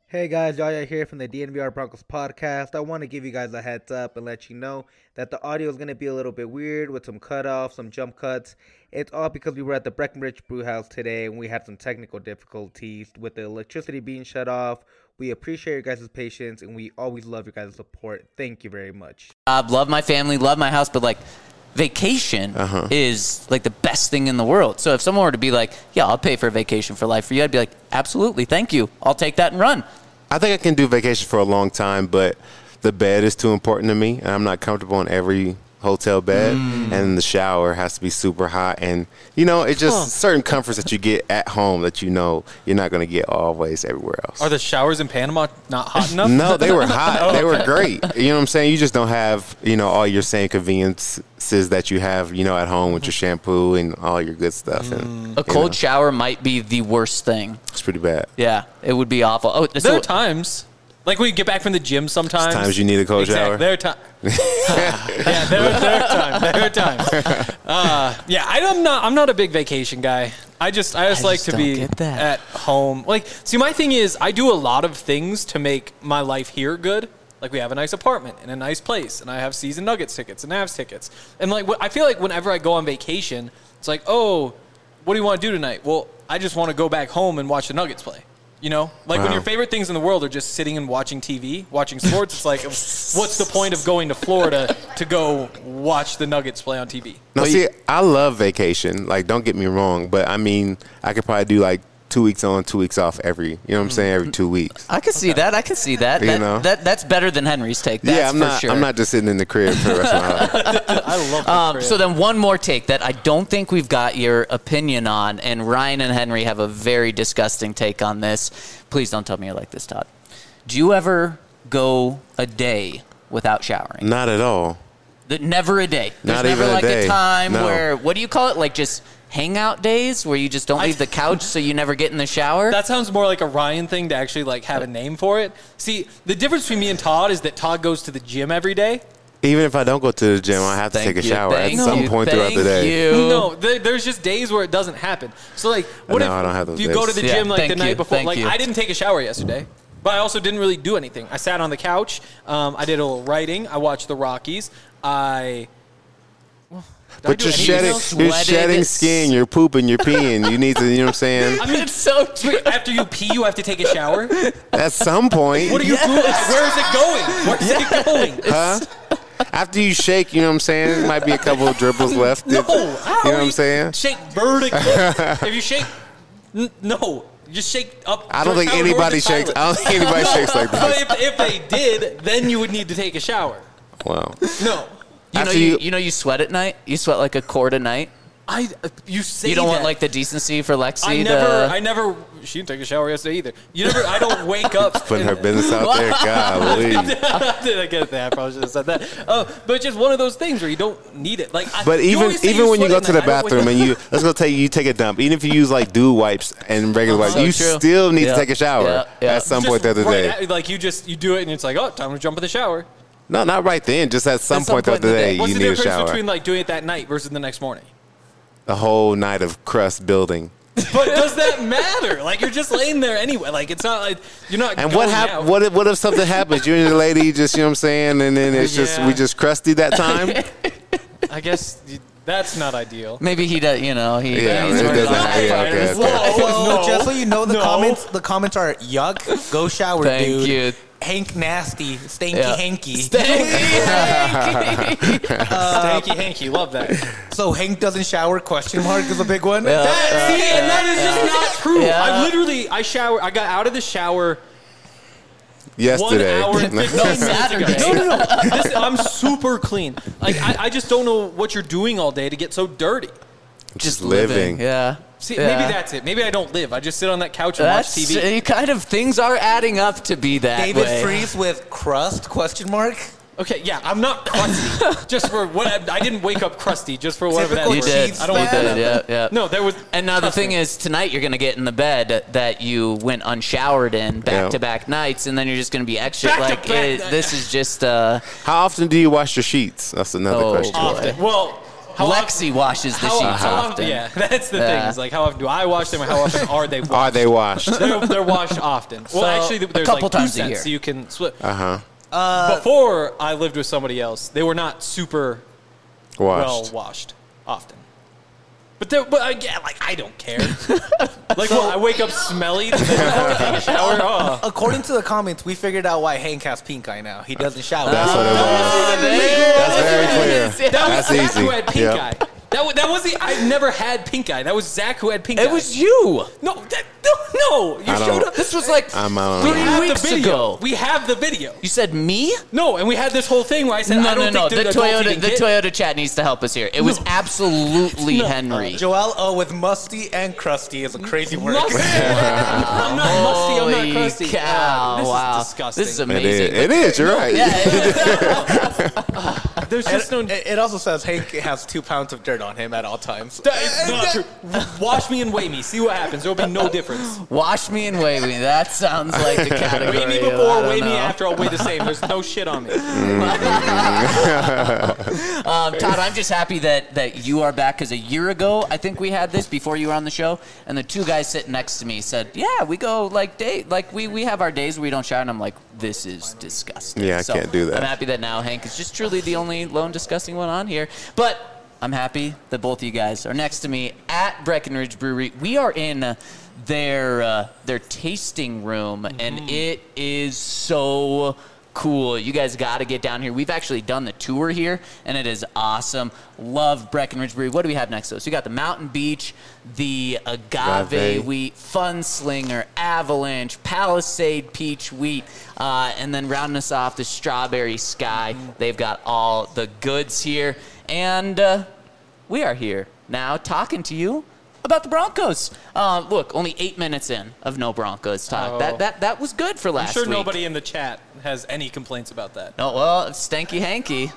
Hey guys, Yaya here from the DNVR Broncos podcast. I want to give you guys a heads up and let you know that the audio is going to be a little bit weird with some cutoffs, some jump cuts. It's all because we were at the Breckenridge Brewhouse today and we had some technical difficulties with the electricity being shut off. We appreciate your guys' patience and we always love your guys' support. Thank you very much. Love my family, love my house, but like vacation is like the best thing in the world. So if someone were to be like, yeah, I'll pay for a vacation for life for you, I'd be like, absolutely, thank you. I'll take that and run. I think I can do vacation for a long time, but the bed is too important to me, and I'm not comfortable in every hotel bed, and the shower has to be super hot, and it's just certain comforts that you get at home that you're not going to get always everywhere else. Are the showers in Panama not hot enough? No, they were hot. They were great. You know what I'm saying? You just don't have all your same conveniences that you have at home with your shampoo and all your good stuff. And a cold shower might be the worst thing. It's pretty bad. Yeah, it would be awful. Oh, there are times. Like when you get back from the gym sometimes. Times you need a cold shower. There are times. Yeah, there are times. I'm not a big vacation guy. I just like to be at home. Like, see, my thing is I do a lot of things to make my life here good. Like we have a nice apartment and a nice place, and I have season Nuggets tickets and Avs tickets. And like I feel like whenever I go on vacation, it's like, oh, what do you want to do tonight? Well, I just want to go back home and watch the Nuggets play. When your favorite things in the world are just sitting and watching TV, watching sports, it's like, what's the point of going to Florida to go watch the Nuggets play on TV? No, see, I love vacation. Like, don't get me wrong, but I mean, I could probably do like 2 weeks on, 2 weeks off every 2 weeks. I can see that. I can see that. That's better than Henry's take. That's I'm not just sitting in the crib for the rest of my life. I love the crib. So then one more take that I don't think we've got your opinion on, and Ryan and Henry have a very disgusting take on this. Please don't tell me you're like this, Todd. Do you ever go a day without showering? Not at all. Never a day. There's never like a time where, what do you call it? Like just hangout days where you just don't leave the couch so you never get in the shower? That sounds more like a Ryan thing to actually like have a name for it. See, the difference between me and Todd is that Todd goes to the gym every day. Even if I don't go to the gym, I have to take a shower at some point throughout the day. No, there's just days where it doesn't happen. So like, what if I don't have those you days. go to the gym like the night before? Like, you. I didn't take a shower yesterday, but I also didn't really do anything. I sat on the couch. I did a little writing. I watched the Rockies. But you're shedding skin, you're pooping, you're peeing. You need to, you know what I'm saying? I mean, it's so true. After you pee, you have to take a shower? At some point. What are you doing? Where is it going? Where's it going? Huh? After you shake, you know what I'm saying? There might be a couple of dribbles left. No. You know what I'm saying? Shake vertically. If you shake, no. You just shake up. I don't think anybody shakes. I don't think anybody shakes like that. But if they did, then you would need to take a shower. Wow. No. You sweat at night? You sweat like a quart a night? You say you don't that. want like the decency for Lexi? I never. She didn't take a shower yesterday either. I don't wake up. Putting her business out there. Golly. Did I get that? I probably should have said that. But it's just one of those things where you don't need it. But even when you go to the bathroom and you take a dump, even if you use like Dude wipes and regular wipes, you still need to take a shower at some point the other day. Like you do it and it's like, oh, time to jump in the shower. No, not right then. Just at some point throughout the day, you need a shower. What's the difference between like doing it that night versus the next morning? The whole night of crust building. But does that matter? Like you're just laying there anyway. Like it's not like you're not. And what if something happens? You and the lady just, you know what I'm saying, and then it's just we just crusty that time. I guess that's not ideal. Maybe he does. He's just so you know, the comments are yuck. Go shower, dude. Thank you. Hank nasty, stanky hanky. Stanky hanky, love that. So Hank doesn't shower? Question mark is a big one. And that is just not true. Yeah. I got out of the shower yesterday. 1 hour and 15 minutes ago. No. I'm super clean. Like I just don't know what you're doing all day to get so dirty. Just living. Yeah. See, maybe that's it. Maybe I don't live. I just sit on that couch and watch TV. Things are adding up to be that David way. Freese with crust? Question mark. Okay, yeah, I'm not crusty. Just for what I didn't wake up crusty. Just for whatever that Typical is. Chiefs I don't want that. Yeah. No, there was. And now the thing is, tonight you're going to get in the bed that you went unshowered in back-to-back nights, and then you're just going to be extra. This is just. How often do you wash your sheets? That's another question. Often. Well. Lexi washes the sheets often. Yeah, that's the thing. Is like, how often do I wash them, or how often are they washed? Are they washed? They're washed often. Well, actually, there's couple like times 2 a year. cents, so you can split. Uh-huh. Before I lived with somebody else, they were not super well washed often. But again, like, I don't care. Like, I wake up smelly, then I have to take a shower. Oh. According to the comments, we figured out why Hank has pink eye now. He doesn't shower. That's what it was. That's very clear. That was That's Zach who easy. had pink eye. That was I never had pink eye. That was Zach who had pink eye. It was you. No. You showed up. This was like I'm out on 3 that. weeks ago. We have the video. You said me? No, and we had this whole thing where I said, I don't think The they're adults Toyota, eating the kids. Toyota chat needs to help us here. It was absolutely Henry. Joel with musty and crusty is a crazy word. Musty. I'm not musty. I'm Holy not crusty. cow! This Wow, is disgusting. this is amazing. It is. You're right. There's just no. It also says Hank has 2 pounds of dirt on him at all times. That is not true. Wash me and weigh me. See what happens. There will be no difference. Wash me and weigh me. That sounds like a category. Weigh me of, before, I don't weigh me know. after. I'll weigh the same. There's no shit on me. Todd, I'm just happy that you are back because a year ago, I think we had this before you were on the show, and the 2 guys sitting next to me said, "Yeah, we go we have our days where we don't shower," and I'm like, "This is disgusting." Yeah, I So can't do that. I'm happy that now Hank is just truly the only lone disgusting one on here, but I'm happy that both of you guys are next to me at Breckenridge Brewery. We are in their tasting room, and it is so cool. You guys got to get down here. We've actually done the tour here, and it is awesome. Love Breckenridge Brewery. What do we have next to us? We got the Mountain Beach, the Agave Wheat, Fun Slinger, Avalanche, Palisade Peach Wheat, and then rounding us off, the Strawberry Sky. They've got all the goods here, and we are here now talking to you about the Broncos. Look, only 8 minutes in of no Broncos talk. Oh. That was good for last I'm sure week. nobody in the chat has any complaints about that. Oh, well, Stanky Hanky.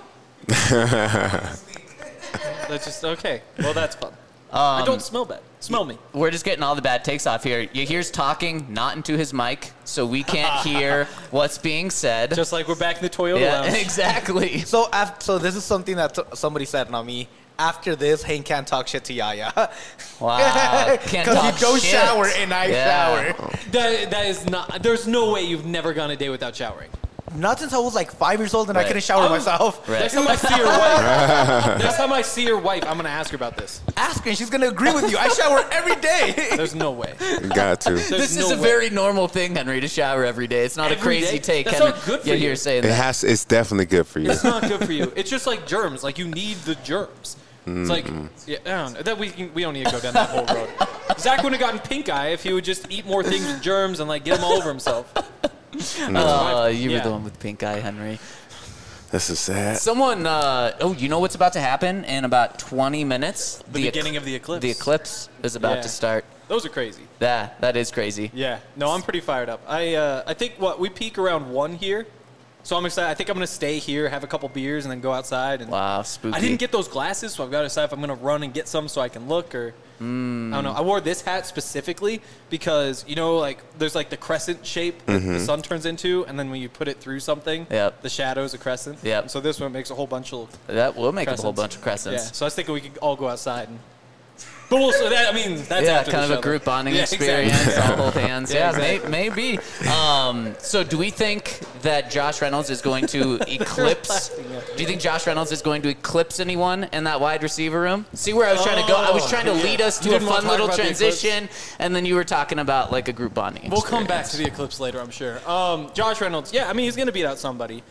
That's just okay. Well, that's fun. I don't smell bad. Smell me. We're just getting all the bad takes off here. Yahir's talking not into his mic, so we can't hear what's being said. Just like we're back in the Toyota yeah, lounge. exactly. So this is something that somebody said, not me. After this, Hank can't talk shit to Yaya. Wow. Can't Because talk you don't shit. shower and I shower. That is not. There's no way you've never gone a day without showering. Not since I was like 5 years old and I Right. couldn't shower myself. Right. Next time I see your wife, I'm gonna ask her about this. Ask her and she's going to agree with you. I shower every day. There's no way. Got to. This no is a way. very normal thing, Henry, to shower every day. It's not a Every crazy day? take. That's Henry. not good for you. Yahir saying that. It's definitely good for you. It's not good for you. It's just like germs. Like you need the germs. It's like I don't know. That we don't need to go down that whole road. Zach wouldn't have gotten pink eye if he would just eat more things with germs and like get them all over himself. You were Yeah. the one with pink eye, Henry. This is sad. Someone, you know what's about to happen in about 20 minutes? The beginning of the eclipse. The eclipse is about Yeah. to start. Those are crazy. That is crazy. Yeah. No, I'm pretty fired up. I think we peak around 1 here. So I'm excited. I think I'm going to stay here, have a couple beers, and then go outside. And Wow, spooky. I didn't get those glasses, so I've got to decide if I'm going to run and get some so I can look or I don't know. I wore this hat specifically because, like there's like the crescent shape that the sun turns into, and then when you put it through something, Yep. the shadow is a crescent. Yep. And so this one makes a whole bunch of That will make a whole crescents. bunch of crescents. Yeah. So I was thinking we could all go outside. But we'll, so that, I mean, that's Yeah, after kind the of a show, group though. bonding Yeah, experience. exactly. All hold hands. Yeah, Yeah, exactly. maybe. So do we think that Josh Reynolds is going to eclipse? Do you think Josh Reynolds is going to eclipse anyone in that wide receiver room? See where I was trying to go? I was trying to lead us to You a didn't want fun to talk little about the transition, and then you were talking about like a group bonding We'll come back experience. to the eclipse later, I'm sure. Josh Reynolds, yeah, I mean, he's going to beat out somebody.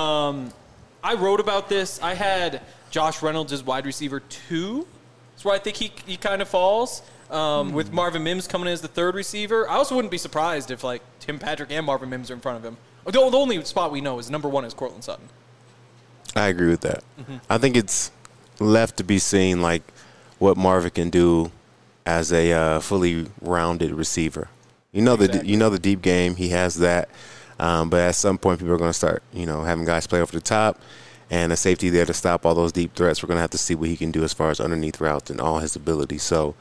I wrote about this. I had Josh Reynolds as wide receiver 2. That's where I think he kind of falls. With Marvin Mims coming in as the 3rd receiver. I also wouldn't be surprised if, like, Tim Patrick and Marvin Mims are in front of him. The only spot we know is number 1 is Courtland Sutton. I agree with that. I think it's left to be seen, like, what Marvin can do as a fully rounded receiver. Exactly. The deep game. He has that. But at some point, people are going to start, having guys play over the top and a safety there to stop all those deep threats. We're going to have to see what he can do as far as underneath routes and all his abilities. So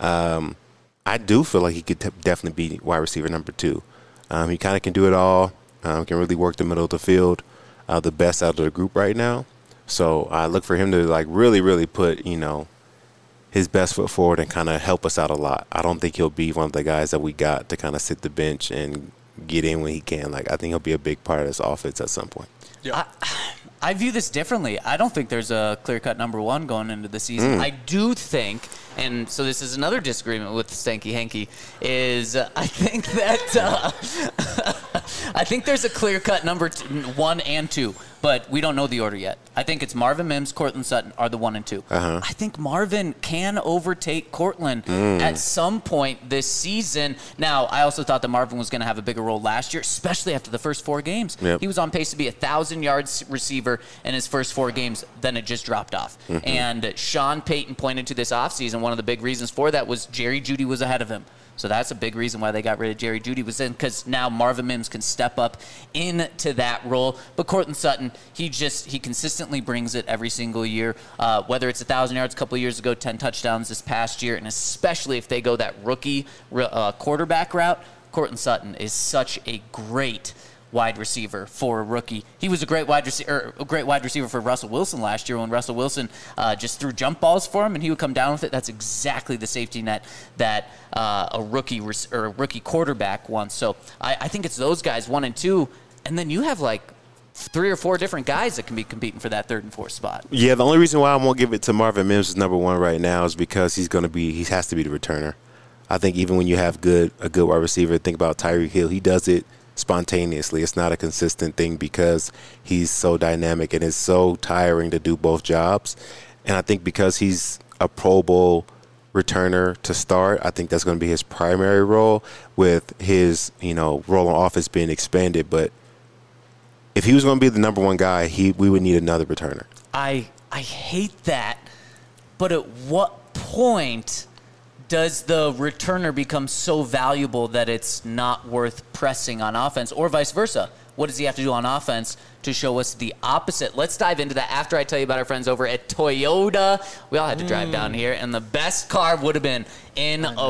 I do feel like he could definitely be wide receiver number 2. He kind of can do it all. Can really work the middle of the field, the best out of the group right now. So I look for him to like really, really put, his best foot forward and kind of help us out a lot. I don't think he'll be one of the guys that we got to kind of sit the bench and get in when he can. Like, I think he'll be a big part of this offense at some point. Yeah. I view this differently. I don't think there's a clear-cut number one going into the season. I do think, and so this is another disagreement with Stanky Hanky, is I think that I think there's a clear-cut number one and two, but we don't know the order yet. I think it's Marvin Mims, Courtland Sutton are the 1 and 2. I think Marvin can overtake Courtland at some point this season. Now, I also thought that Marvin was going to have a bigger role last year, especially after the first 4 games. He was on pace to be a 1,000-yard receiver in his first 4 games, then it just dropped off. And Sean Payton pointed to this offseason, one of the big reasons for that was Jerry Jeudy was ahead of him. So that's a big reason why they got rid of Jerry Jeudy, was in because now Marvin Mims can step up into that role. But Courtland Sutton, he consistently brings it every single year. Whether it's 1,000 yards a couple of years ago, 10 touchdowns this past year, and especially if they go that rookie quarterback route, Courtland Sutton is such a great wide receiver for a rookie. He was a great wide receiver for Russell Wilson last year when Russell Wilson just threw jump balls for him and he would come down with it. That's exactly the safety net that a rookie quarterback wants. So I think it's those guys 1 and 2, and then you have like 3 or 4 different guys that can be competing for that 3rd and 4th spot. Yeah, the only reason why I won't give it to Marvin Mims as number 1 right now is because he has to be the returner. I think even when you have a good wide receiver, think about Tyreek Hill. He does it spontaneously. It's not a consistent thing because he's so dynamic and it's so tiring to do both jobs. And I think because he's a Pro Bowl returner to start, I think that's going to be his primary role, with his role on offense being expanded. But if he was going to be the number 1 guy, we would need another returner. I hate that, but at what point does the returner become so valuable that it's not worth pressing on offense, or vice versa? What does he have to do on offense to show us the opposite? Let's dive into that after I tell you about our friends over at Toyota. We all had to drive down here, and the best car would have been in a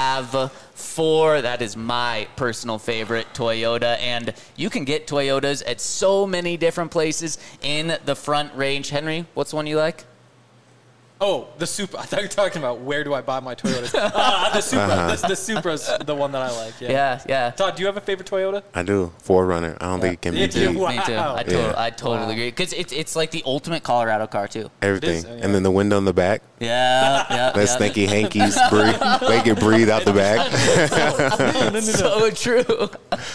RAV4. That is my personal favorite, Toyota, and you can get Toyotas at so many different places in the Front Range. Henry, what's the one you like? Oh, the Supra. I thought you were talking about where do I buy my Toyotas. The Supra. The Supra's the one that I like. Yeah. Todd, do you have a favorite Toyota? I do. 4Runner. I don't think it can be beat. Wow. Me too. I totally agree. Because it's like the ultimate Colorado car, too. Everything. And then the window in the back. Yeah. Let Stinky Hankies breathe. Make it breathe out the back. So true.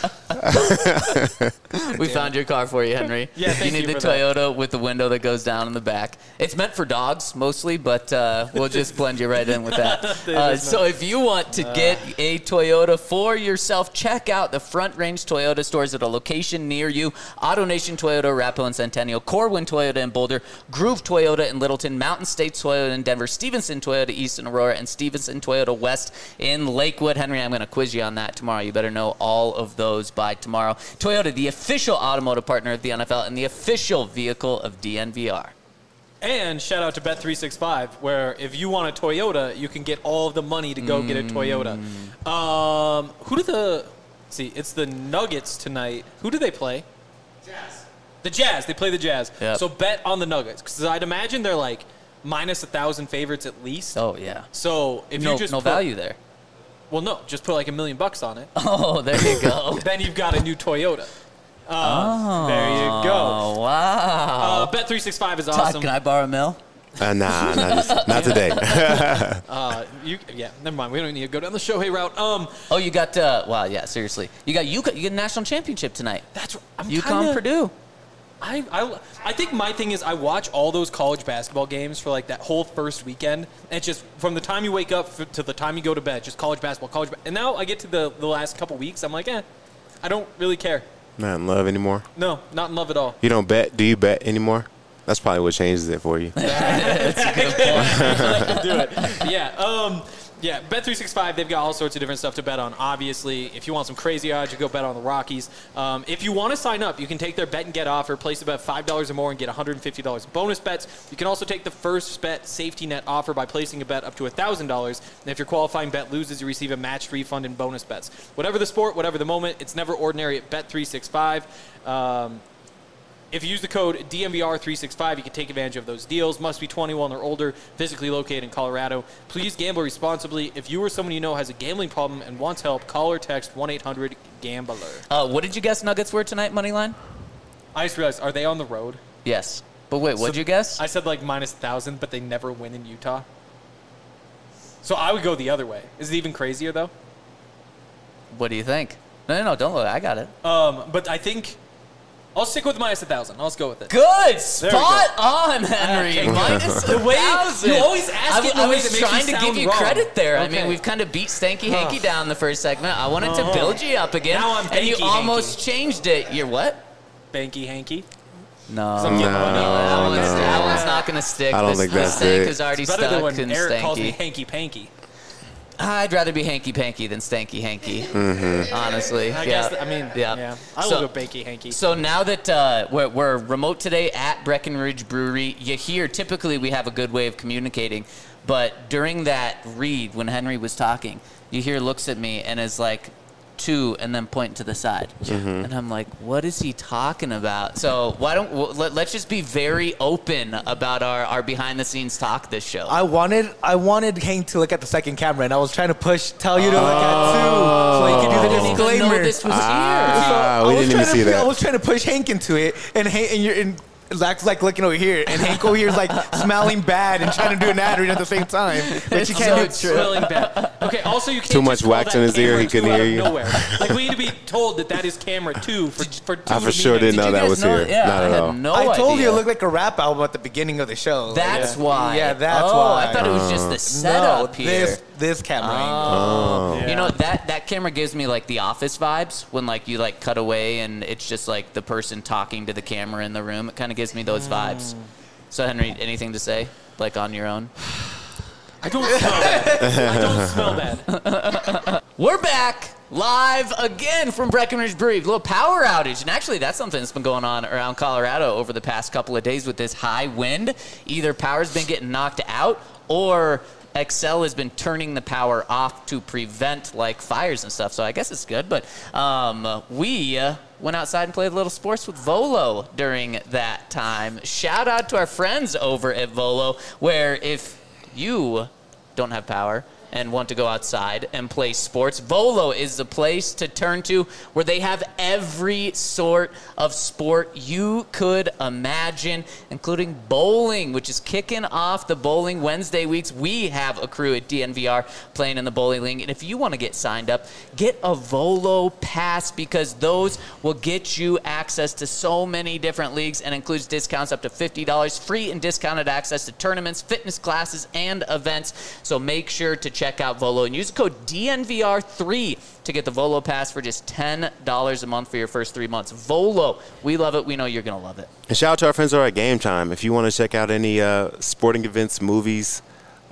We found your car for you, Henry. Yeah, thank you need the Toyota with the window that goes down in the back. It's meant for dogs mostly, but we'll just blend you right in with that. So if you want to get a Toyota for yourself, check out the Front Range Toyota stores at a location near you. AutoNation Toyota, Arapahoe and Centennial, Corwin Toyota in Boulder, Groove Toyota in Littleton, Mountain State Toyota in Denver, Stevenson Toyota East in Aurora, and Stevenson Toyota West in Lakewood. Henry, I'm going to quiz you on that tomorrow. You better know all of those by tomorrow. Toyota, the official automotive partner of the NFL and the official vehicle of DNVR. And shout out to Bet365, where if you want a Toyota, you can get all of the money to go get a Toyota. It's the Nuggets tonight. Who do they play? Jazz. The Jazz. They play the Jazz. Yep. So bet on the Nuggets, because I'd imagine they're like minus 1,000 favorites at least. Oh, yeah. So if you just no value there. Well, no, just put like $1 million on it. Oh, there you go. Then you've got a new Toyota. There you go. Oh, wow. Bet365 is awesome. Todd, can I borrow $1 million? Nah, not today. Never mind. We don't need to go down the Shohei route. Oh, you got seriously. You got a national championship tonight. That's UConn, Purdue. I think my thing is I watch all those college basketball games for like that whole first weekend. And it's just from the time you wake up to the time you go to bed, just college basketball. And now I get to the last couple weeks, I'm like, I don't really care. Not in love anymore? No, not in love at all. You don't bet? Do you bet anymore? That's probably what changes it for you. That's a good point. Do it. Yeah. Bet365, they've got all sorts of different stuff to bet on. Obviously, if you want some crazy odds, you go bet on the Rockies. If you want to sign up, you can take their bet and get offer, place a bet $5 or more and get $150 in bonus bets. You can also take the first bet safety net offer by placing a bet up to $1,000. And if your qualifying bet loses, you receive a matched refund in bonus bets. Whatever the sport, whatever the moment, it's never ordinary at Bet365. If you use the code DNVR365, you can take advantage of those deals. Must be 21 or older, physically located in Colorado. Please gamble responsibly. If you or someone you know has a gambling problem and wants help, call or text 1-800-GAMBLER. What did you guess Nuggets were tonight, Moneyline? I just realized, are they on the road? Yes. But wait, what'd you guess? I said like minus 1,000, but they never win in Utah. So I would go the other way. Is it even crazier, though? What do you think? No, don't look. I got it. But I think I'll stick with minus 1,000. Let's go with it. Good. Spot on, Henry. Minus 1,000. You always ask it in the way that makes trying to give you wrong. credit there. Okay. I mean, we've kind of beat Stanky Hanky down in the first segment. I wanted to build you up again. Now I'm and you Banky almost changed it. You're what? Banky Hanky. No. No. That one's not going to stick. I don't think that's Stank it. is already It's better stuck than when in Eric calls me Stanky. Hanky Panky. I'd rather be Hanky Panky than Stanky Hanky. Honestly. I yeah. guess, yeah. I So- will go Banky Hanky. So now that we're remote today at Breckenridge Brewery, you hear typically we have a good way of communicating, but during that read when Henry was talking, you hear looks at me and is like, two, and then point to the side. And I'm like, what is he talking about? So why don't let's just be very open about our behind the scenes talk this show. I wanted Hank to look at the second camera, and I was trying to tell you to look at two, so you could do the I didn't even know disclaimer. this was here. we I was didn't even trying see to- that. I was trying to push Hank into it, and Zach's like looking over here, and Hank over here is like smelling bad and trying to do an ad read at the same time, but you can't so do true. Smelling bad. Okay, also you can't Too just much call wax that in his ear, camera he couldn't two out hear of you. Nowhere. Like we need to be told that is camera 2 for 2 I to for sure mean didn't know Did you that guys was know? here. Yeah, Not I at had all. no I told you idea. it looked like a rap album at the beginning of the show. That's why. Yeah, that's oh, why. I thought it was just the setup no, here. this camera angle. Oh. Yeah. You know, that camera gives me like the Office vibes when like you like cut away and it's just like the person talking to the camera in the room. It kind of gives me those vibes. So Henry, anything to say like on your own? I don't smell bad. I don't smell bad. We're back live again from Breckenridge Brewery. A little power outage. And actually, that's something that's been going on around Colorado over the past couple of days with this high wind. Either power's been getting knocked out or Xcel has been turning the power off to prevent like fires and stuff. So I guess it's good. But we went outside and played a little sports with Volo during that time. Shout out to our friends over at Volo, where if you don't have power and want to go outside and play sports, Volo is the place to turn to, where they have every sort of sport you could imagine, including bowling, which is kicking off the Bowling Wednesday weeks. We have a crew at DNVR playing in the bowling league, and if you want to get signed up, get a Volo pass, because those will get you access to so many different leagues and includes discounts up to $50, free and discounted access to tournaments, fitness classes, and events. So make sure to check out Volo and use the code DNVR3 to get the Volo pass for just $10 a month for your first 3 months. Volo, we love it. We know you're going to love it. And shout out to our friends over at Game Time. If you want to check out any sporting events, movies,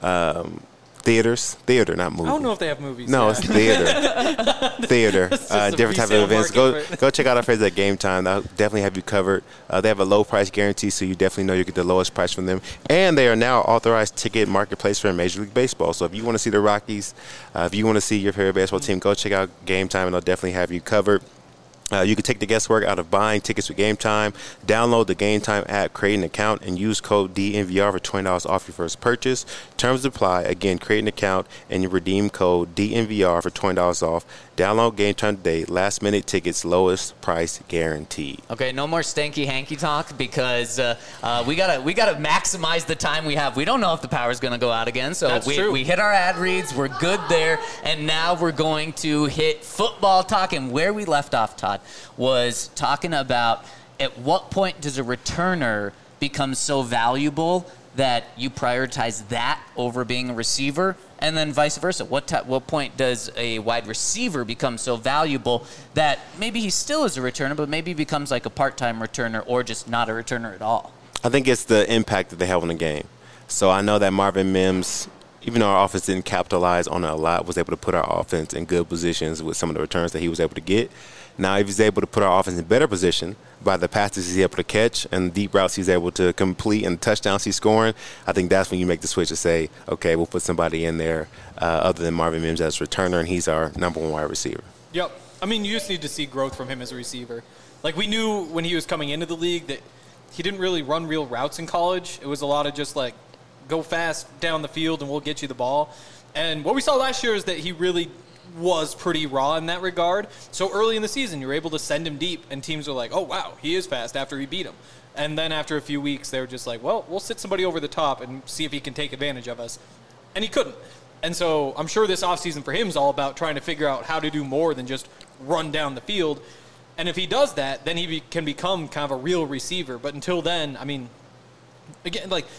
theater, not movies. I don't know if they have movies. No, yeah. it's theater. a Different type of resale events. market Go check out our friends at Game Time. They'll definitely have you covered. They have a low price guarantee, so you definitely know you get the lowest price from them. And they are now authorized ticket marketplace for Major League Baseball. So if you want to see the Rockies, if you want to see your favorite baseball team, go check out Game Time, and they'll definitely have you covered. You can take the guesswork out of buying tickets with Game Time. Download the Game Time app, create an account, and use code DNVR for $20 off your first purchase. Terms apply. Again, create an account and you redeem code DNVR for $20 off. Download Game Time today. Last minute tickets, lowest price guaranteed. Okay, no more stanky hanky talk, because we gotta maximize the time we have. We don't know if the power's gonna go out again, so That's true. we hit our ad reads. We're good there, and now we're going to hit football talk. And where we left off, Todd, was talking about at what point does a returner become so valuable that you prioritize that over being a receiver, and then vice versa. What point does a wide receiver become so valuable that maybe he still is a returner, but maybe becomes like a part-time returner or just not a returner at all? I think it's the impact that they have on the game. So I know that Marvin Mims, even though our offense didn't capitalize on it a lot, was able to put our offense in good positions with some of the returns that he was able to get. Now, if he's able to put our offense in better position by the passes he's able to catch and the deep routes he's able to complete and the touchdowns he's scoring, I think that's when you make the switch to say, okay, we'll put somebody in there other than Marvin Mims as returner, and he's our number one wide receiver. Yep. I mean, you just need to see growth from him as a receiver. Like, we knew when he was coming into the league that he didn't really run real routes in college. It was a lot of just, like, go fast down the field and we'll get you the ball. And what we saw last year is that he really was pretty raw in that regard. So early in the season, you were able to send him deep, and teams were like, oh, wow, he is fast after we beat him. And then after a few weeks, they were just like, well, we'll sit somebody over the top and see if he can take advantage of us. And he couldn't. And so I'm sure this offseason for him is all about trying to figure out how to do more than just run down the field. And if he does that, then he can become kind of a real receiver. But until then, I mean, again, like,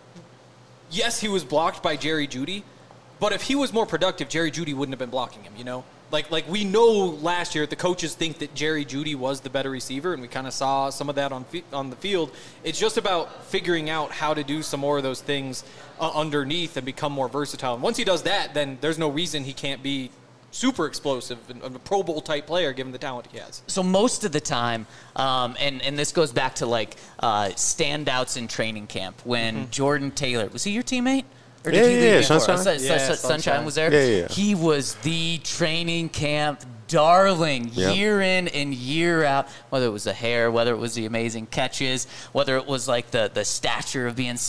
yes, he was blocked by Jerry Jeudy, but if he was more productive, Jerry Jeudy wouldn't have been blocking him, you know? Like we know last year the coaches think that Jerry Jeudy was the better receiver, and we kind of saw some of that on the field. It's just about figuring out how to do some more of those things underneath and become more versatile. And once he does that, then there's no reason he can't be super explosive and a Pro Bowl type player given the talent he has. So most of the time, and this goes back to like standouts in training camp when Jordan Taylor, was he your teammate? Or did he leave Sunshine. Sunshine was there. Yeah. He was the training camp darling year in and year out, whether it was the hair, whether it was the amazing catches, whether it was like the stature of being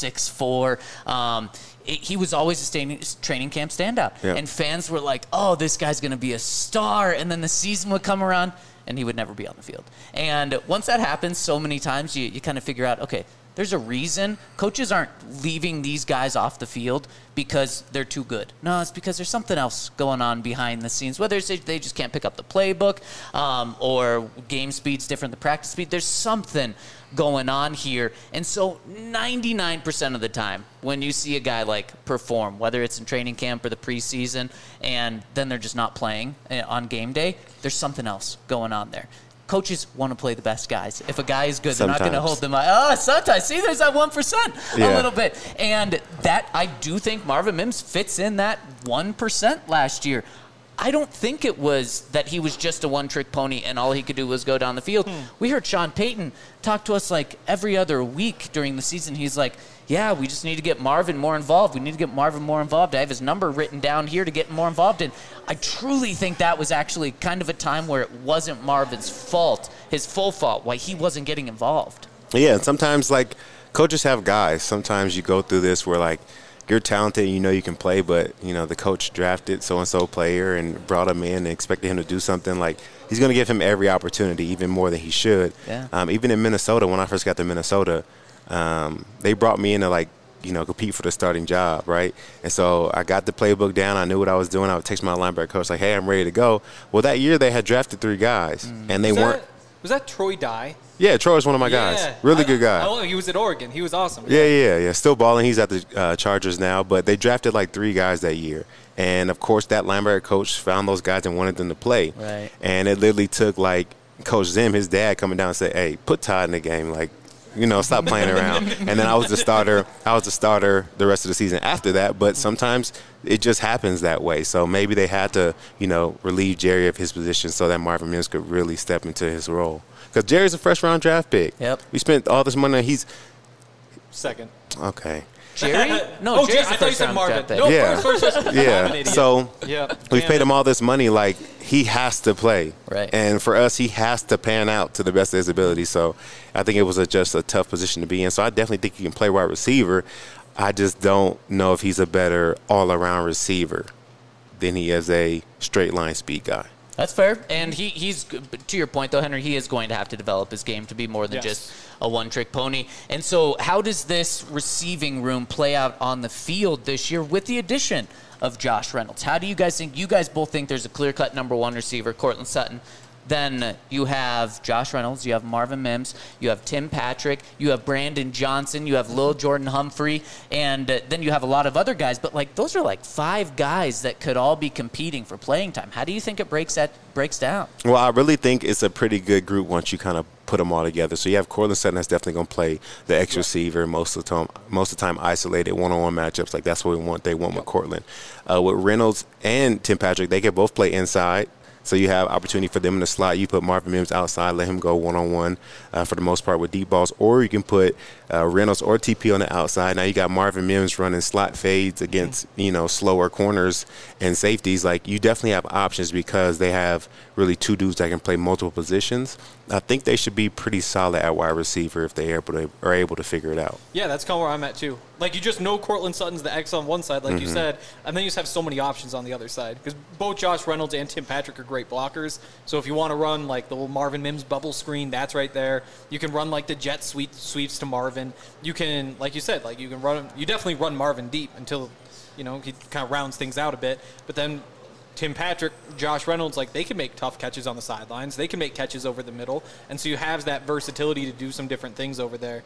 6'4". He was always a training camp standout. Yeah. And fans were like, oh, this guy's going to be a star. And then the season would come around and he would never be on the field. And once that happens so many times, you kind of figure out, okay, there's a reason. Coaches aren't leaving these guys off the field because they're too good. No, it's because there's something else going on behind the scenes. Whether it's they just can't pick up the playbook or game speed's different than practice speed. There's something going on here. And so 99% of the time when you see a guy like perform, whether it's in training camp or the preseason, and then they're just not playing on game day, there's something else going on there. Coaches want to play the best guys. If a guy is good, they're not going to hold them. Sometimes. See, there's that 1% a little bit. And that, I do think Marvin Mims fits in that 1% last year. I don't think it was that he was just a one-trick pony and all he could do was go down the field. We heard Sean Payton talk to us like every other week during the season. He's like, yeah, we just need to get Marvin more involved. We need to get Marvin more involved. I have his number written down here to get more involved. And I truly think that was actually kind of a time where it wasn't Marvin's fault, his full fault, why he wasn't getting involved. Yeah, and sometimes, like, coaches have guys. Sometimes you go through this where, like, you're talented and you know you can play, but, you know, the coach drafted so-and-so player and brought him in and expected him to do something. Like, he's going to give him every opportunity, even more than he should. Yeah. Even in Minnesota, when I first got to Minnesota, they brought me in to, like, you know, compete for the starting job, right? And so I got the playbook down. I knew what I was doing. I would text my linebacker coach, like, hey, I'm ready to go. Well, that year they had drafted 3 guys, and they weren't. Was that Troy Dye? Yeah, Troy was one of my guys. Really good guy. Oh, he was at Oregon. He was awesome. Yeah. Still balling. He's at the Chargers now. But they drafted like 3 guys that year. And, of course, that linebacker coach found those guys and wanted them to play. Right. And it literally took, like, Coach Zim, his dad, coming down and say, hey, put Todd in the game. Like, you know, stop playing around. And then I was the starter. The rest of the season after that. But sometimes it just happens that way. So maybe they had to, you know, relieve Jerry of his position so that Marvin Mims could really step into his role. Because Jerry's a first-round draft pick. Yep. We spent all this money. He's second. Okay. Jerry? No, Jerry's I thought you said Marvin. pick. No, Yeah. first. Yeah. So we Damn paid it. him all this money. Like, he has to play. Right. And for us, he has to pan out to the best of his ability. So I think it was just a tough position to be in. So I definitely think he can play wide receiver. I just don't know if he's a better all-around receiver than he is a straight-line speed guy. That's fair. And he's, to your point, though, Henry, he is going to have to develop his game to be more than just a one-trick pony. And so how does this receiving room play out on the field this year with the addition of Josh Reynolds? How do you guys think? You guys both think there's a clear-cut number 1 receiver, Courtland Sutton. Then you have Josh Reynolds, you have Marvin Mims, you have Tim Patrick, you have Brandon Johnson, you have Lil Jordan Humphrey, and then you have a lot of other guys. But, like, those are like 5 guys that could all be competing for playing time. How do you think it breaks down? Well, I really think it's a pretty good group once you kind of put them all together. So you have Courtland Sutton that's definitely going to play the X receiver most of the time isolated one-on-one matchups. Like, that's what they want with Courtland. With Reynolds and Tim Patrick, they can both play inside. So you have opportunity for them in the slot. You put Marvin Mims outside, let him go one-on-one for the most part with deep balls. Or you can put Reynolds or TP on the outside. Now you got Marvin Mims running slot fades against, slower corners and safeties. Like, you definitely have options because they have really two dudes that can play multiple positions. I think they should be pretty solid at wide receiver if they are able to figure it out. Yeah, that's kind of where I'm at too. Like, you just know Courtland Sutton's the X on one side, like you said, and then you just have so many options on the other side. Because both Josh Reynolds and Tim Patrick are great blockers. So if you want to run like the little Marvin Mims bubble screen, that's right there. You can run like the jet sweeps to Marvin. You can, like you said, like you definitely run Marvin deep until, he kind of rounds things out a bit. But then Tim Patrick, Josh Reynolds, like, they can make tough catches on the sidelines. They can make catches over the middle. And so you have that versatility to do some different things over there.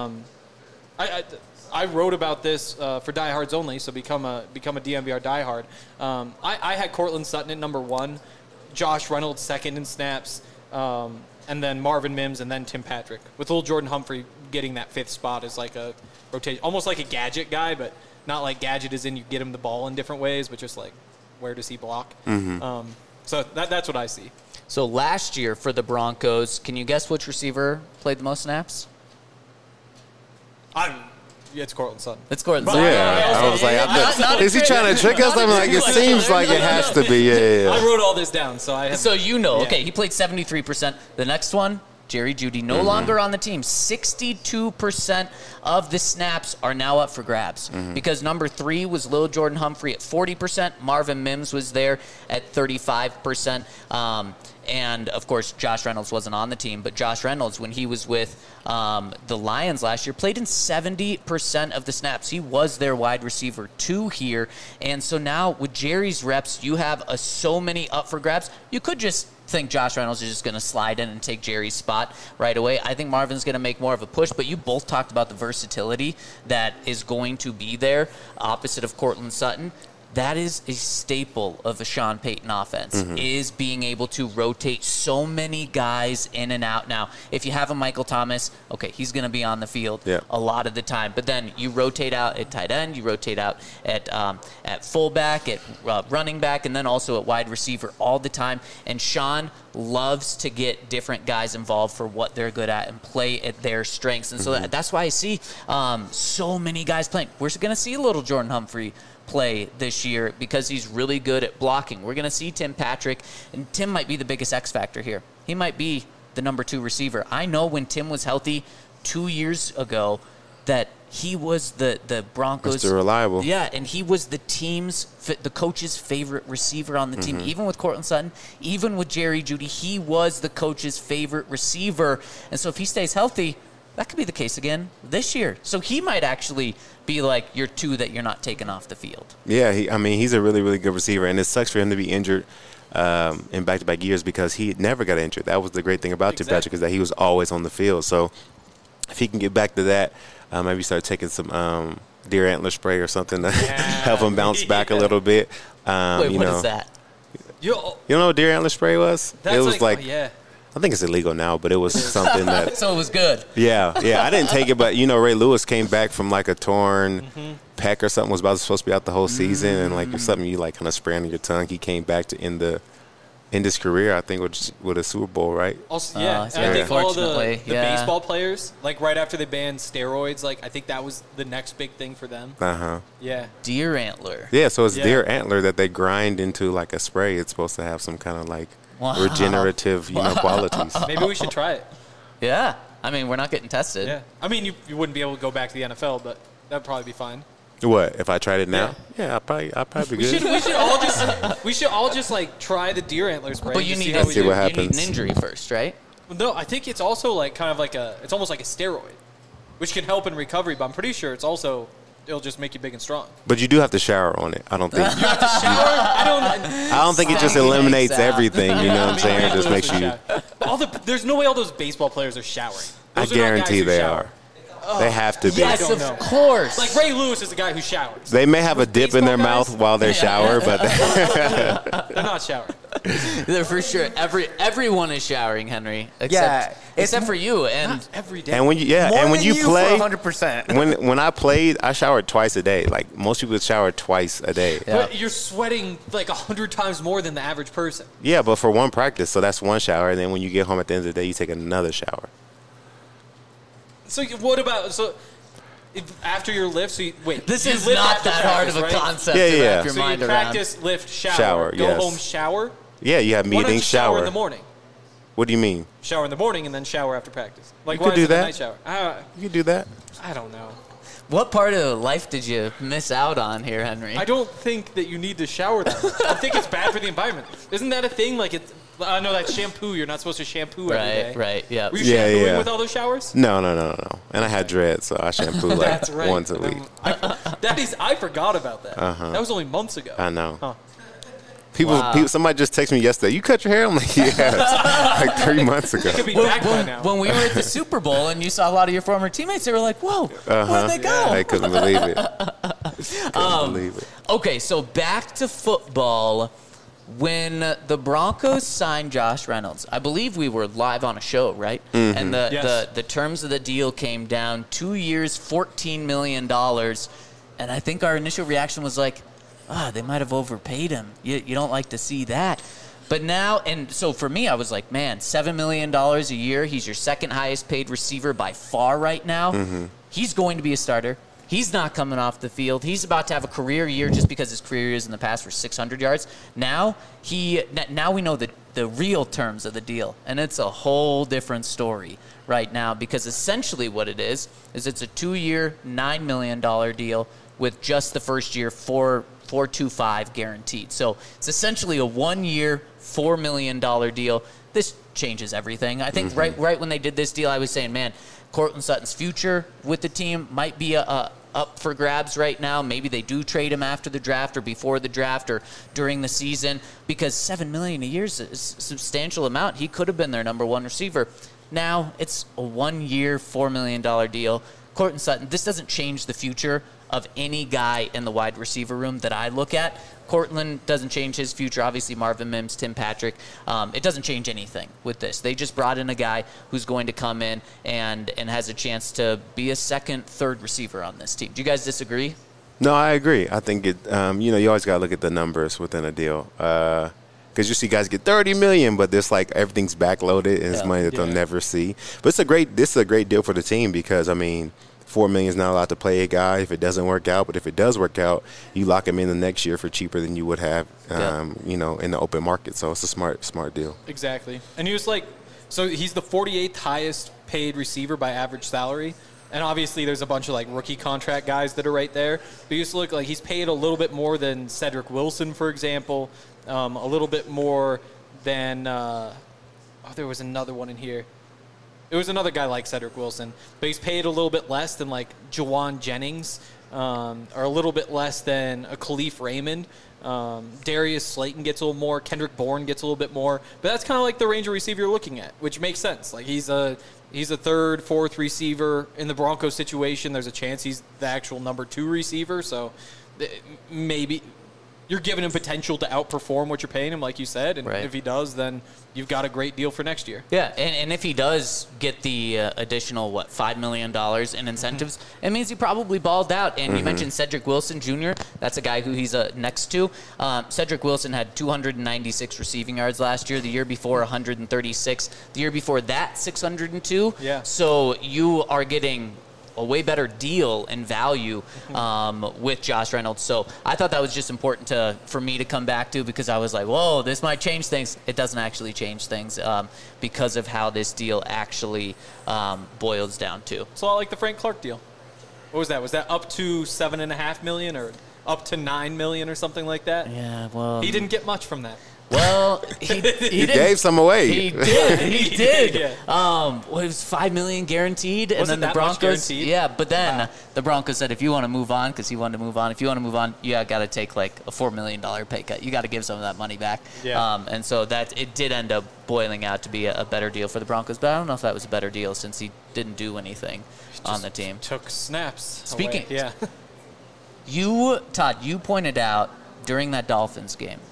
I wrote about this for Diehards Only, so become a DNVR diehard. I had Courtland Sutton at number 1, Josh Reynolds second in snaps, and then Marvin Mims, and then Tim Patrick. With little Jordan Humphrey getting that 5th spot as like a rotation, almost like a gadget guy, but not like gadget as in you get him the ball in different ways, but just like, where does he block? So that's what I see. So last year for the Broncos, can you guess which receiver played the most snaps? It's Courtland Sutton. It's Courtland Sutton. Yeah, I was like, is he trying to trick us? I'm like, it seems like it has to be. Yeah. I wrote all this down, so I have. So okay, he played 73%. The next one, Jerry Jeudy, no longer on the team. 62% of the snaps are now up for grabs because number 3 was Lil Jordan Humphrey at 40%. Marvin Mims was there at 35%. And, of course, Josh Reynolds wasn't on the team. But Josh Reynolds, when he was with the Lions last year, played in 70% of the snaps. He was their wide receiver 2 here. And so now with Jerry's reps, you have so many up for grabs. You could just think Josh Reynolds is just going to slide in and take Jerry's spot right away. I think Marvin's going to make more of a push, but you both talked about the versatility that is going to be there opposite of Courtland Sutton. That is a staple of a Sean Payton offense, is being able to rotate so many guys in and out. Now, if you have a Michael Thomas, okay, he's going to be on the field a lot of the time. But then you rotate out at tight end, you rotate out at fullback, at running back, and then also at wide receiver all the time. And Sean loves to get different guys involved for what they're good at and play at their strengths. And so that's why I see so many guys playing. We're going to see a little Jordan Humphrey play this year because he's really good at blocking. We're going to see Tim Patrick, and Tim might be the biggest X factor here. He might be the number 2 receiver. I know when Tim was healthy 2 years ago that he was the Broncos. Mr. Reliable. Yeah, and he was the coach's favorite receiver on the team. Even with Courtland Sutton, even with Jerry Jeudy, he was the coach's favorite receiver. And so if he stays healthy, that could be the case again this year. So he might actually be like your 2 that you're not taking off the field. Yeah, he's a really, really good receiver, and it sucks for him to be injured in back-to-back years because he never got injured. That was the great thing about Tim Patrick, is that he was always on the field. So if he can get back to that, maybe start taking some deer antler spray or something to help him bounce back a little bit. Wait, what is that? You know what deer antler spray was? It was like I think it's illegal now, but it was something that. So it was good. Yeah. I didn't take it, but Ray Lewis came back from like a torn pec or something. Was supposed to be out the whole season, and like something you like kind of spray on your tongue. He came back to end his career, I think, with a Super Bowl, right? Also, and I think all the baseball players, like right after they banned steroids, like I think that was the next big thing for them. Yeah. Deer antler. Yeah, so it's deer antler that they grind into like a spray. It's supposed to have some kind of like regenerative, qualities. Maybe we should try it. Yeah. I mean, we're not getting tested. Yeah. I mean, you wouldn't be able to go back to the NFL, but that'd probably be fine. What, if I tried it now? Yeah, I'd probably be good. We should all just like try the deer antler spray. But you need an injury first, right? No, I think it's also like kind of like it's almost like a steroid, which can help in recovery. But I'm pretty sure it'll just make you big and strong. But you do have to shower on it. I don't think. You have to shower? I don't think it just eliminates everything. You know what I'm saying? It just makes you. There's no way all those baseball players are showering. I guarantee they are. They have to be. Yes, of course. Like Ray Lewis is the guy who showers. They may have a dip in their mouth while they shower, but they're not showering. They're for sure. Everyone is showering, Henry. Except for you. And not every day. And when you More and when than you play, 100%. when I played, I showered twice a day. Like most people shower twice a day. Yeah. But you're sweating like 100 times more than the average person. Yeah, but for one practice, so that's one shower. And then when you get home at the end of the day, you take another shower. So what about after your lift? So this you is lift not after that hard of a practice, right? concept Yeah, to yeah. wrap your So mind you around. practice, lift, shower, Shower, go yes. home, shower. Yeah, you have Why don't meeting, you shower shower. in the morning? What do you mean? Shower in the morning and then shower after practice. Like You why could do is it a that. night shower? You can do that. I don't know. What part of life did you miss out on here, Henry? I don't think that you need to shower that much. I think it's bad for the environment. Isn't that a thing? Like I know that shampoo. You're not supposed to shampoo every day. Right, yeah. Were you Yeah, shampooing yeah. with all those showers? No. And I had dreads, so I shampoo like That's right. once a week. I forgot about that. Uh-huh. That was only months ago. I know. Huh. People, somebody just texted me yesterday. You cut your hair? I'm like, yeah, like 3 months ago. Could be back by now. When we were at the Super Bowl and you saw a lot of your former teammates, they were like, whoa, where'd they go? I couldn't believe it. Couldn't believe it. Okay, so back to football. When the Broncos signed Josh Reynolds, I believe we were live on a show, right? Mm-hmm. And Yes. the terms of the deal came down 2 years, $14 million. And I think our initial reaction was like, they might have overpaid him. You don't like to see that. But now, and so for me, I was like, man, $7 million a year. He's your second highest paid receiver by far right now. Mm-hmm. He's going to be a starter. He's not coming off the field. He's about to have a career year just because his career years in the past were 600 yards. Now we know the real terms of the deal, and it's a whole different story right now because essentially what it is it's a 2-year, $9 million deal with just the first year $4.25 guaranteed. So it's essentially a 1-year, $4 million deal. This changes everything. I think right when they did this deal, I was saying, man, Courtland Sutton's future with the team might be up for grabs right now. Maybe they do trade him after the draft or before the draft or during the season because $7 million a year is a substantial amount. He could have been their number one receiver. Now it's a 1-year, $4 million deal. Courtland Sutton, this doesn't change the future of any guy in the wide receiver room that I look at. Courtland doesn't change his future. Obviously, Marvin Mims, Tim Patrick. It doesn't change anything with this. They just brought in a guy who's going to come in and has a chance to be a second, third receiver on this team. Do you guys disagree? No, I agree. I think it. You always gotta look at the numbers within a deal. Because you see guys get $30 million, but there's like everything's backloaded and it's money that they'll never see. But this is a great deal for the team because $4 million is not allowed to play a guy if it doesn't work out. But if it does work out, you lock him in the next year for cheaper than you would have, in the open market. So it's a smart deal. Exactly. And he was so he's the 48th highest paid receiver by average salary. And obviously there's a bunch of rookie contract guys that are right there. But he used to look like he's paid a little bit more than Cedric Wilson, for example. A little bit more than there was another one in here. It was another guy like Cedric Wilson, but he's paid a little bit less than Jawan Jennings, or a little bit less than a Khalif Raymond. Darius Slayton gets a little more. Kendrick Bourne gets a little bit more. But that's kind of like the range of receiver you're looking at, which makes sense. He's a third, fourth receiver in the Broncos situation. There's a chance he's the actual number 2 receiver. So maybe you're giving him potential to outperform what you're paying him, like you said. And if he does, then you've got a great deal for next year. Yeah, and if he does get the additional, $5 million in incentives, it means he probably balled out. And you mentioned Cedric Wilson Jr. That's a guy who he's next to. Cedric Wilson had 296 receiving yards last year. The year before, 136. The year before that, 602. Yeah. So you are getting a way better deal and value with Josh Reynolds. So I thought that was just important for me to come back to because I was like, whoa, this might change things. It doesn't actually change things because of how this deal actually boils down to. It's a lot like the Frank Clark deal. What was that? Was that up to $7.5 million or up to $9 million or something like that? Yeah, well, he didn't get much from that. Well, he gave some away. He did. He did. Yeah. It was $5 million guaranteed, and then the Broncos. Yeah, but then the Broncos said, if you want to move on, because he wanted to move on. If you want to move on, you got to take a $4 million pay cut. You got to give some of that money back. Yeah. And so it did end up boiling out to be a better deal for the Broncos. But I don't know if that was a better deal since he didn't do anything on the team. Took snaps. Speaking, away. Yeah. Todd, you pointed out during that Dolphins game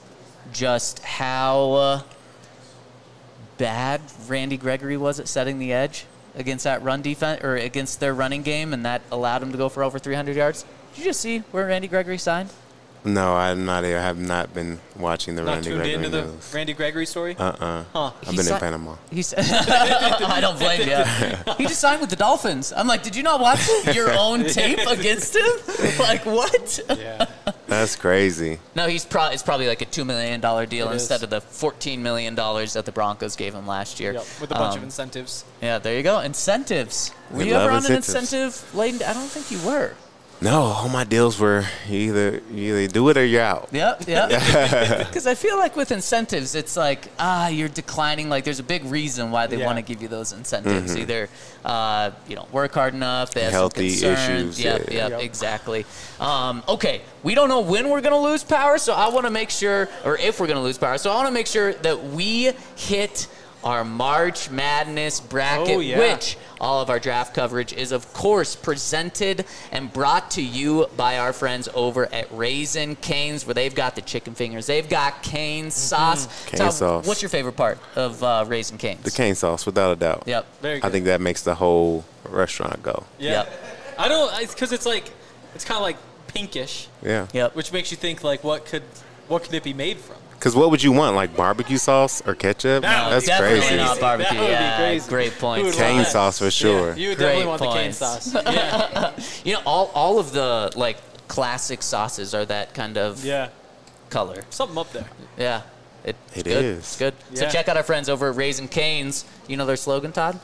just how bad Randy Gregory was at setting the edge against that run defense or against their running game, and that allowed him to go for over 300 yards. Did you just see where Randy Gregory signed? No, I'm not here. I have not been watching the Not Randy tuned Gregory into the news. Randy Gregory story? Huh. I've He been si- in Panama. I don't blame you. He just signed with the Dolphins. I'm like, did you not watch your own tape against him? Like, what? Yeah. That's crazy. No, it's probably like a $2 million deal It instead is. of the $14 million that the Broncos gave him last year. Yep, with a bunch of incentives. Yeah, there you go. Incentives. Were We you ever love on an incentives. incentive laden? I don't think you were. No, all my deals were you either do it or you're out. Yep. Because I feel like with incentives, it's like, you're declining. Like, there's a big reason why they Yeah. want to give you those incentives. Either, you don't work hard enough, they have Healthy some concerns. issues, Yep, yeah. exactly. Okay, we don't know when we're going to lose power, so I want to make sure, or if we're going to lose power, so I want to make sure that we hit our March Madness bracket, Oh, yeah. which all of our draft coverage is, of course, presented and brought to you by our friends over at Raisin Cane's, where they've got the chicken fingers. They've got cane sauce. Cane Todd, sauce. What's your favorite part of Raisin Cane's? The cane sauce, without a doubt. Yep. Very good. I think that makes the whole restaurant go. Yeah. Yep. I don't, because it's like, it's kind of like pinkish, Yeah. Yep. which makes you think, like, what could it be made from? Because what would you want, like barbecue sauce or ketchup? No, That's Definitely crazy. not barbecue. That would be Yeah, crazy. great Who point. would Cane want that? sauce for sure. Yeah, you would Great definitely want the cane points. sauce. Yeah. You know, all of the, like, classic sauces are that kind of Yeah. color. Something up there. Yeah. It's It good. is. It's good. So Yeah. check out our friends over at Raisin Cane's. You know their slogan, Todd?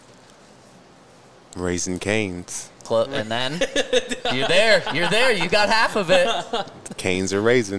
Raisin Canes. And then you're there. You're there. You got half of it. Canes are raisin.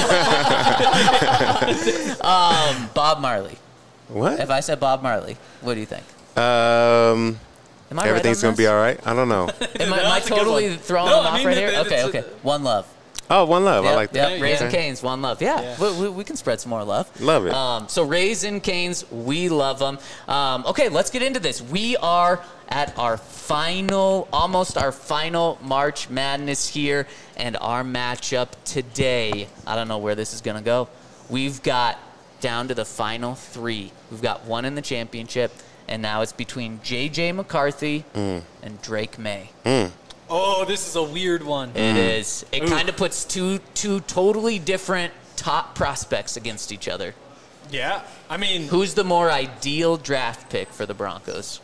Bob Marley. What? If I said Bob Marley, what do you think? Um, Am I everything's right on going to be this? all right. I don't know. Am I That's a good totally one. throwing No, them I off mean, right here? it's Okay. a- One love. Oh, one love. I like that. Yep. Yeah, Raisin yeah. Cane's, one love. Yeah, Yeah. We can spread some more love. Love it. So Raisin Cane's, we love them. Okay, let's get into this. We are at our almost our final March Madness here, and our matchup today, I don't know where this is going to go. We've got down to the final three. We've got one in the championship, and now it's between J.J. McCarthy and Drake May. Oh, this is a weird one. It is. It Ooh. kind of puts two totally different top prospects against each other. Yeah. I mean, Who's the more ideal draft pick for the Broncos?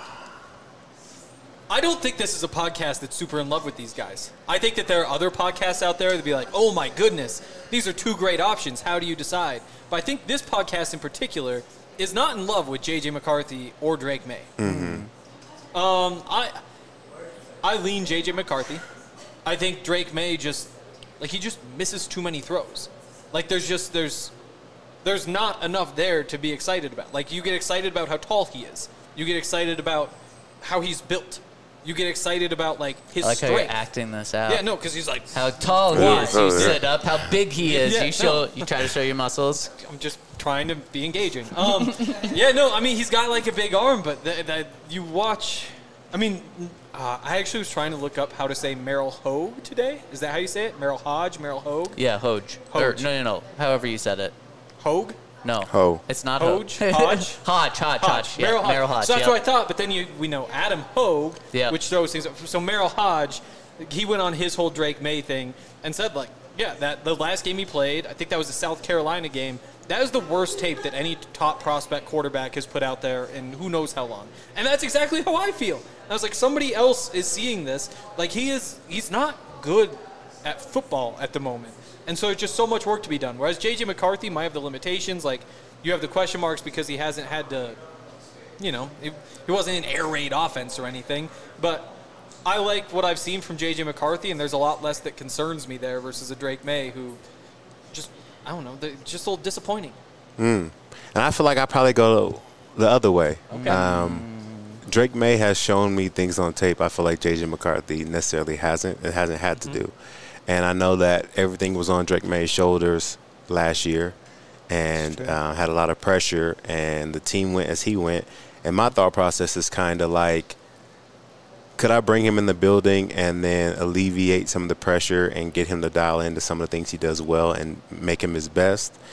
I don't think this is a podcast that's super in love with these guys. I think that there are other podcasts out there that'd be like, oh my goodness, these are two great options. How do you decide? But I think this podcast in particular is not in love with J.J. McCarthy or Drake May. I lean J.J. McCarthy. I think Drake May just misses too many throws. Like there's not enough there to be excited about. Like you get excited about how tall he is. You get excited about how he's built. You get excited about like his I like how strength. you're acting this out. Yeah, no, because he's like, How tall he Yeah. is. Oh, You yeah. sit up. How big he is. Yeah, You try to show your muscles. I'm just trying to be engaging. Yeah, no, I mean he's got like a big arm, but that you watch. I mean, I actually was trying to look up how to say Merrill Hogue today. Is that how you say it? Merrill Hodge, Merrill Hogue, Yeah, Hoge. Hoge. No. However you said it. Hogue. No. Ho. It's not Hodge? Hoge. Hodge? Hodge. Yeah, Merrill Hodge. So that's yep. what I thought. But then we know Adam Hogue, Yeah. which throws things up. So Merrill Hodge, he went on his whole Drake May thing and said like, yeah, that the last game he played, I think that was the South Carolina game. That is the worst tape that any top prospect quarterback has put out there in who knows how long. And that's exactly how I feel. I was like, somebody else is seeing this. Like he's not good at football at the moment. And so it's just so much work to be done. Whereas J.J. McCarthy might have the limitations. Like, you have the question marks because he hasn't had to, he wasn't in air raid offense or anything. But I like what I've seen from J.J. McCarthy, and there's a lot less that concerns me there versus a Drake May who just, I don't know, just a little disappointing. And I feel like I probably go the other way. Okay. Drake May has shown me things on tape I feel like J.J. McCarthy necessarily hasn't. It hasn't had to do. And I know that everything was on Drake May's shoulders last year and had a lot of pressure, and the team went as he went. And my thought process is kind of like, could I bring him in the building and then alleviate some of the pressure and get him to dial into some of the things he does well and make him his best?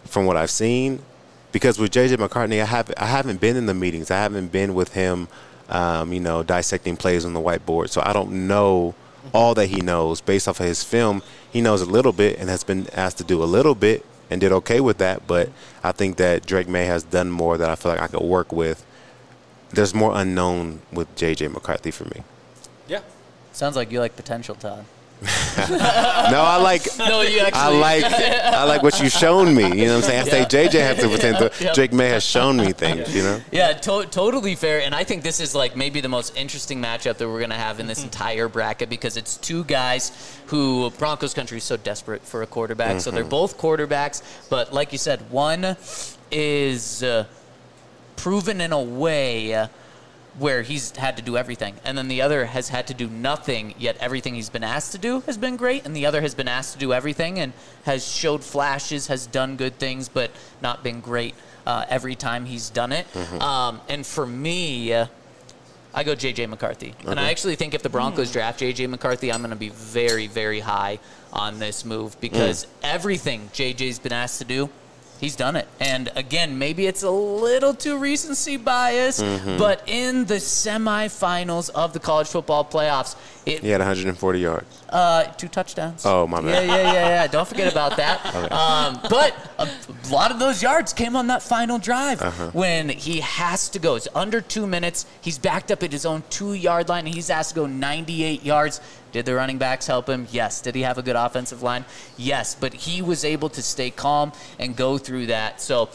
from what I've seen. Because with J.J. McCarthy, I haven't been in the meetings. I haven't been with him, dissecting plays on the whiteboard. So I don't know all that he knows. Based off of his film, he knows a little bit and has been asked to do a little bit and did okay with that. But I think that Drake May has done more that I feel like I could work with. There's more unknown with J.J. McCarthy for me. Yeah. Sounds like you like potential, Todd. No, I like. No, you actually. I like what you've shown me. You know what I'm saying? I say JJ has the potential. Yep. Drake May has shown me things. You know. Yeah, totally fair. And I think this is like maybe the most interesting matchup that we're gonna have in this entire bracket because it's two guys who Broncos country is so desperate for a quarterback. So they're both quarterbacks, but like you said, one is proven in a way where he's had to do everything. And then the other has had to do nothing, yet everything he's been asked to do has been great. And the other has been asked to do everything and has showed flashes, has done good things, but not been great every time he's done it. And for me, I go J.J. McCarthy. And I actually think if the Broncos draft J.J. McCarthy, I'm going to be very, very high on this move because everything J.J.'s been asked to do, he's done it. And again, maybe it's a little too recency bias, but in the semifinals of the college football playoffs, he had 140 yards. 2 touchdowns. Oh, my bad. Yeah. Don't forget about that. Okay. But a lot of those yards came on that final drive when he has to go. It's under 2 minutes. He's backed up at his own 2-yard line, and he's asked to go 98 yards. Did the running backs help him? Yes. Did he have a good offensive line? Yes. But he was able to stay calm and go through that. So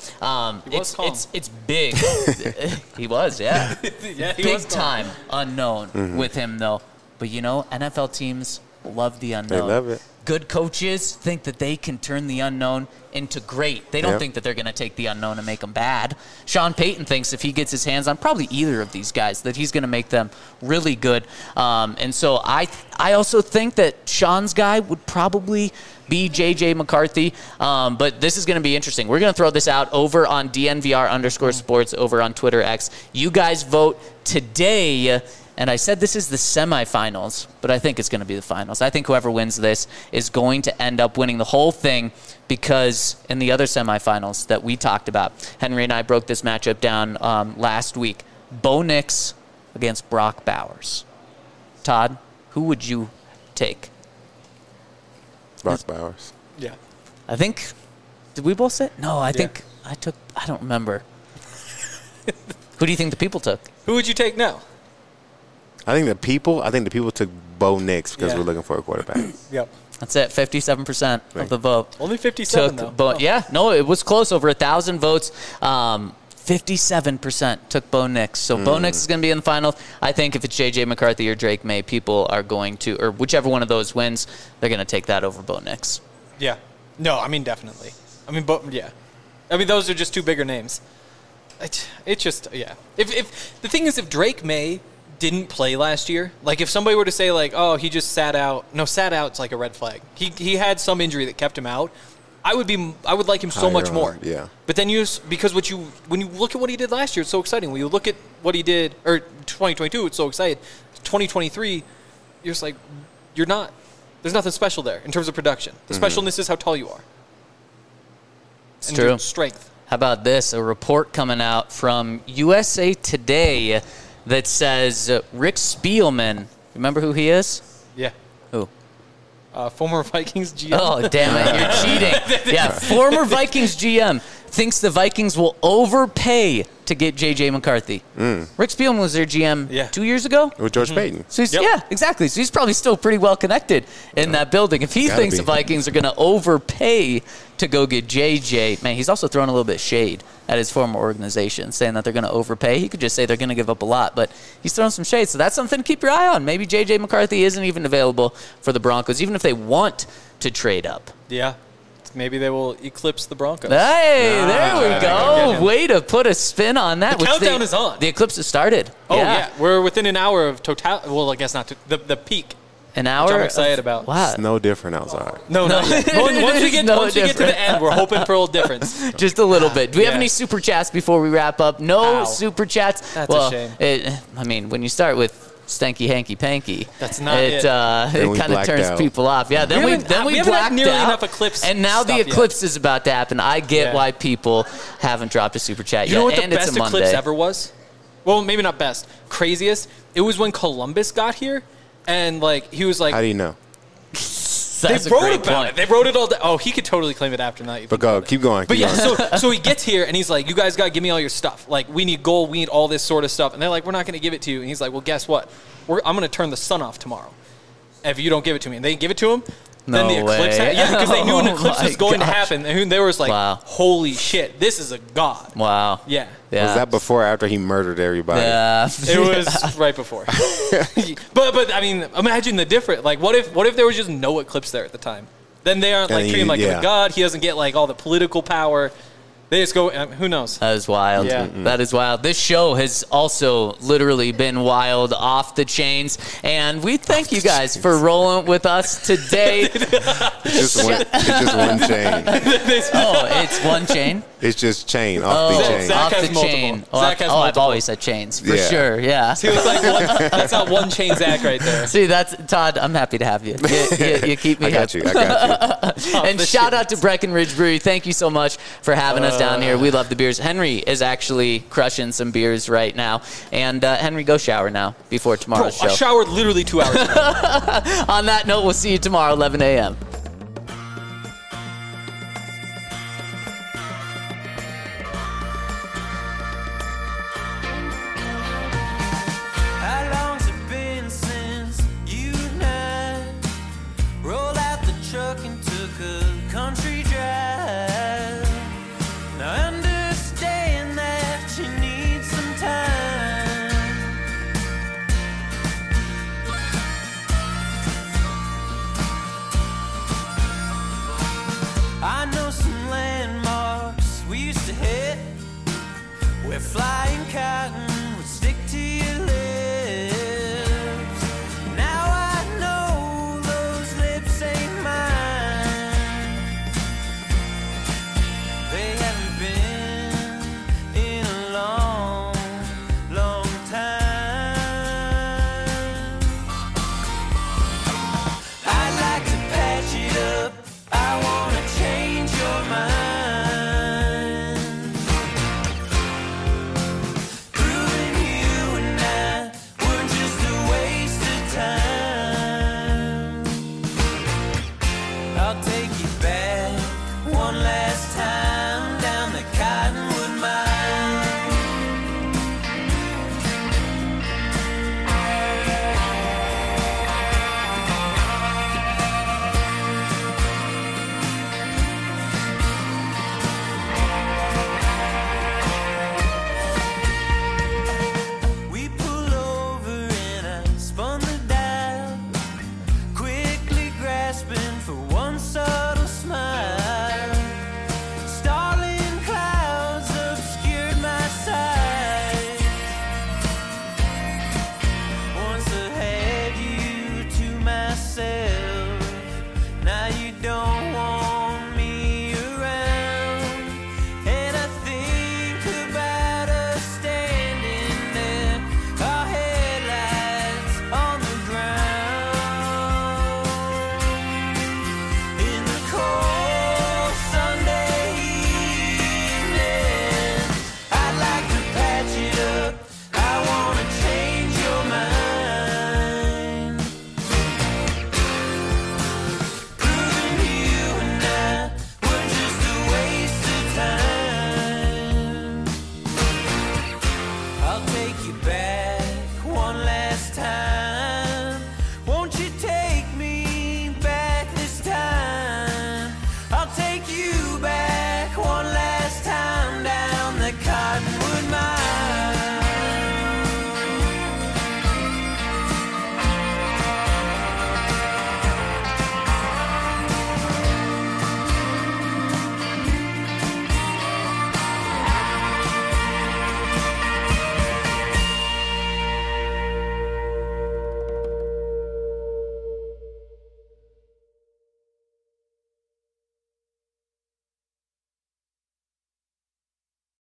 it's big. He was, yeah. Yeah, he big was calm. time unknown with him, though. But, NFL teams love the unknown. They love it. Good coaches think that they can turn the unknown into great. They don't think that they're going to take the unknown and make them bad. Sean Payton thinks if he gets his hands on probably either of these guys, that he's going to make them really good. And so I also think that Sean's guy would probably be J.J. McCarthy. But this is going to be interesting. We're going to throw this out over on DNVR_sports over on Twitter X. You guys vote today. And I said this is the semifinals, but I think it's going to be the finals. I think whoever wins this is going to end up winning the whole thing because in the other semifinals that we talked about, Henry and I broke this matchup down last week. Bo Nix against Brock Bowers. Todd, who would you take? Brock Bowers. Yeah. I think, did we both say? No, I think I don't remember. Who do you think the people took? Who would you take now? I think the people took Bo Nix because we're looking for a quarterback. Yep. That's it, 57% of the vote. Only 57, though. Yeah, no, it was close, over 1,000 votes. 57% took Bo Nix. So Bo Nix is going to be in the final. I think if it's J.J. McCarthy or Drake May, people are going to, or whichever one of those wins, they're going to take that over Bo Nix. Yeah. No, I mean, definitely. I mean, those are just two bigger names. It's just, yeah. If the thing is, if Drake May didn't play last year, like if somebody were to say like, oh, he just sat out. No, sat out's like a red flag. He had some injury that kept him out. I would like him so much more. Yeah. But then because when you look at what he did last year, it's so exciting. When you look at what he did, or 2022, it's so exciting. 2023, you're just like, there's nothing special there in terms of production. The specialness is how tall you are. It's true. Strength. How about this? A report coming out from USA Today that says Rick Spielman. Remember who he is? Yeah. Who? Former Vikings GM. Oh, damn it. You're cheating. Yeah, former Vikings GM thinks the Vikings will overpay to get J.J. McCarthy. Rick Spielman was their GM 2 years ago. With George Payton. So yeah, exactly. So he's probably still pretty well connected in that building. If he thinks the Vikings are going to overpay to go get J.J., man, he's also throwing a little bit of shade at his former organization, saying that they're going to overpay. He could just say they're going to give up a lot, but he's throwing some shade. So that's something to keep your eye on. Maybe J.J. McCarthy isn't even available for the Broncos, even if they want to trade up. Yeah. Maybe they will eclipse the Broncos. Hey, there we go. Way to put a spin on that. The countdown is on. The eclipse has started. Oh, yeah. We're within an hour of total. Well, I guess not. The peak. An hour? Which I'm excited about. Wow. It's no different outside. No. Once we get to the end, we're hoping for a little difference. Just a little bit. Do we have any super chats before we wrap up? No super chats. That's a shame. I mean, when you start with stanky hanky panky. That's not it. It kind of turns people off. Yeah, then we blacked nearly out. Enough Eclipse and now the eclipse is about to happen. I get Yeah. why people haven't dropped a super chat yet. You know what and the it's best a Eclipse Monday. ever was? Well, maybe not best. Craziest. It was when Columbus got here, and like he was like, How do you know? That's they a wrote great about point. it. They wrote it all down. Oh, he could totally claim it after that. But go, keep going. But keep yeah, going. so he gets here and he's like, you guys got to give me all your stuff. Like, we need gold, we need all this sort of stuff. And they're like, we're not going to give it to you. And he's like, well, guess what? I'm going to turn the sun off tomorrow if you don't give it to me. And they give it to him. Then the eclipse way. yeah, because they knew an Oh eclipse was my going to gosh. happen. And they was like, Wow. holy shit, this is a god. Wow. Yeah. Yeah. Was that before or after he murdered everybody? Yeah. It was right before. but I mean, imagine the difference. Like, what if there was just no eclipse there at the time? Then they aren't like And treating him like yeah. a god. He doesn't get like all the political power. They just go. Who knows? That is wild. Yeah. That is wild. This show has also literally been wild, off the chains. And we thank you guys for rolling with us today. It's just one chain. Oh, it's one chain? It's just chain off the chain. Zach Off has the multiple. chain. Zach has I've multiple. always said chains, for Yeah. sure. Yeah. He was like, that's not one chain Zach right there. See, that's Todd. I'm happy to have you. You keep me I got happy. you. I got you. And the shout shit. out to Breckenridge Brewery. Thank you so much for having us down here. We love the beers. Henry is actually crushing some beers right now. And Henry, go shower now before Bro, tomorrow's I show. showered literally 2 hours ago. On that note, we'll see you tomorrow, 11 a.m.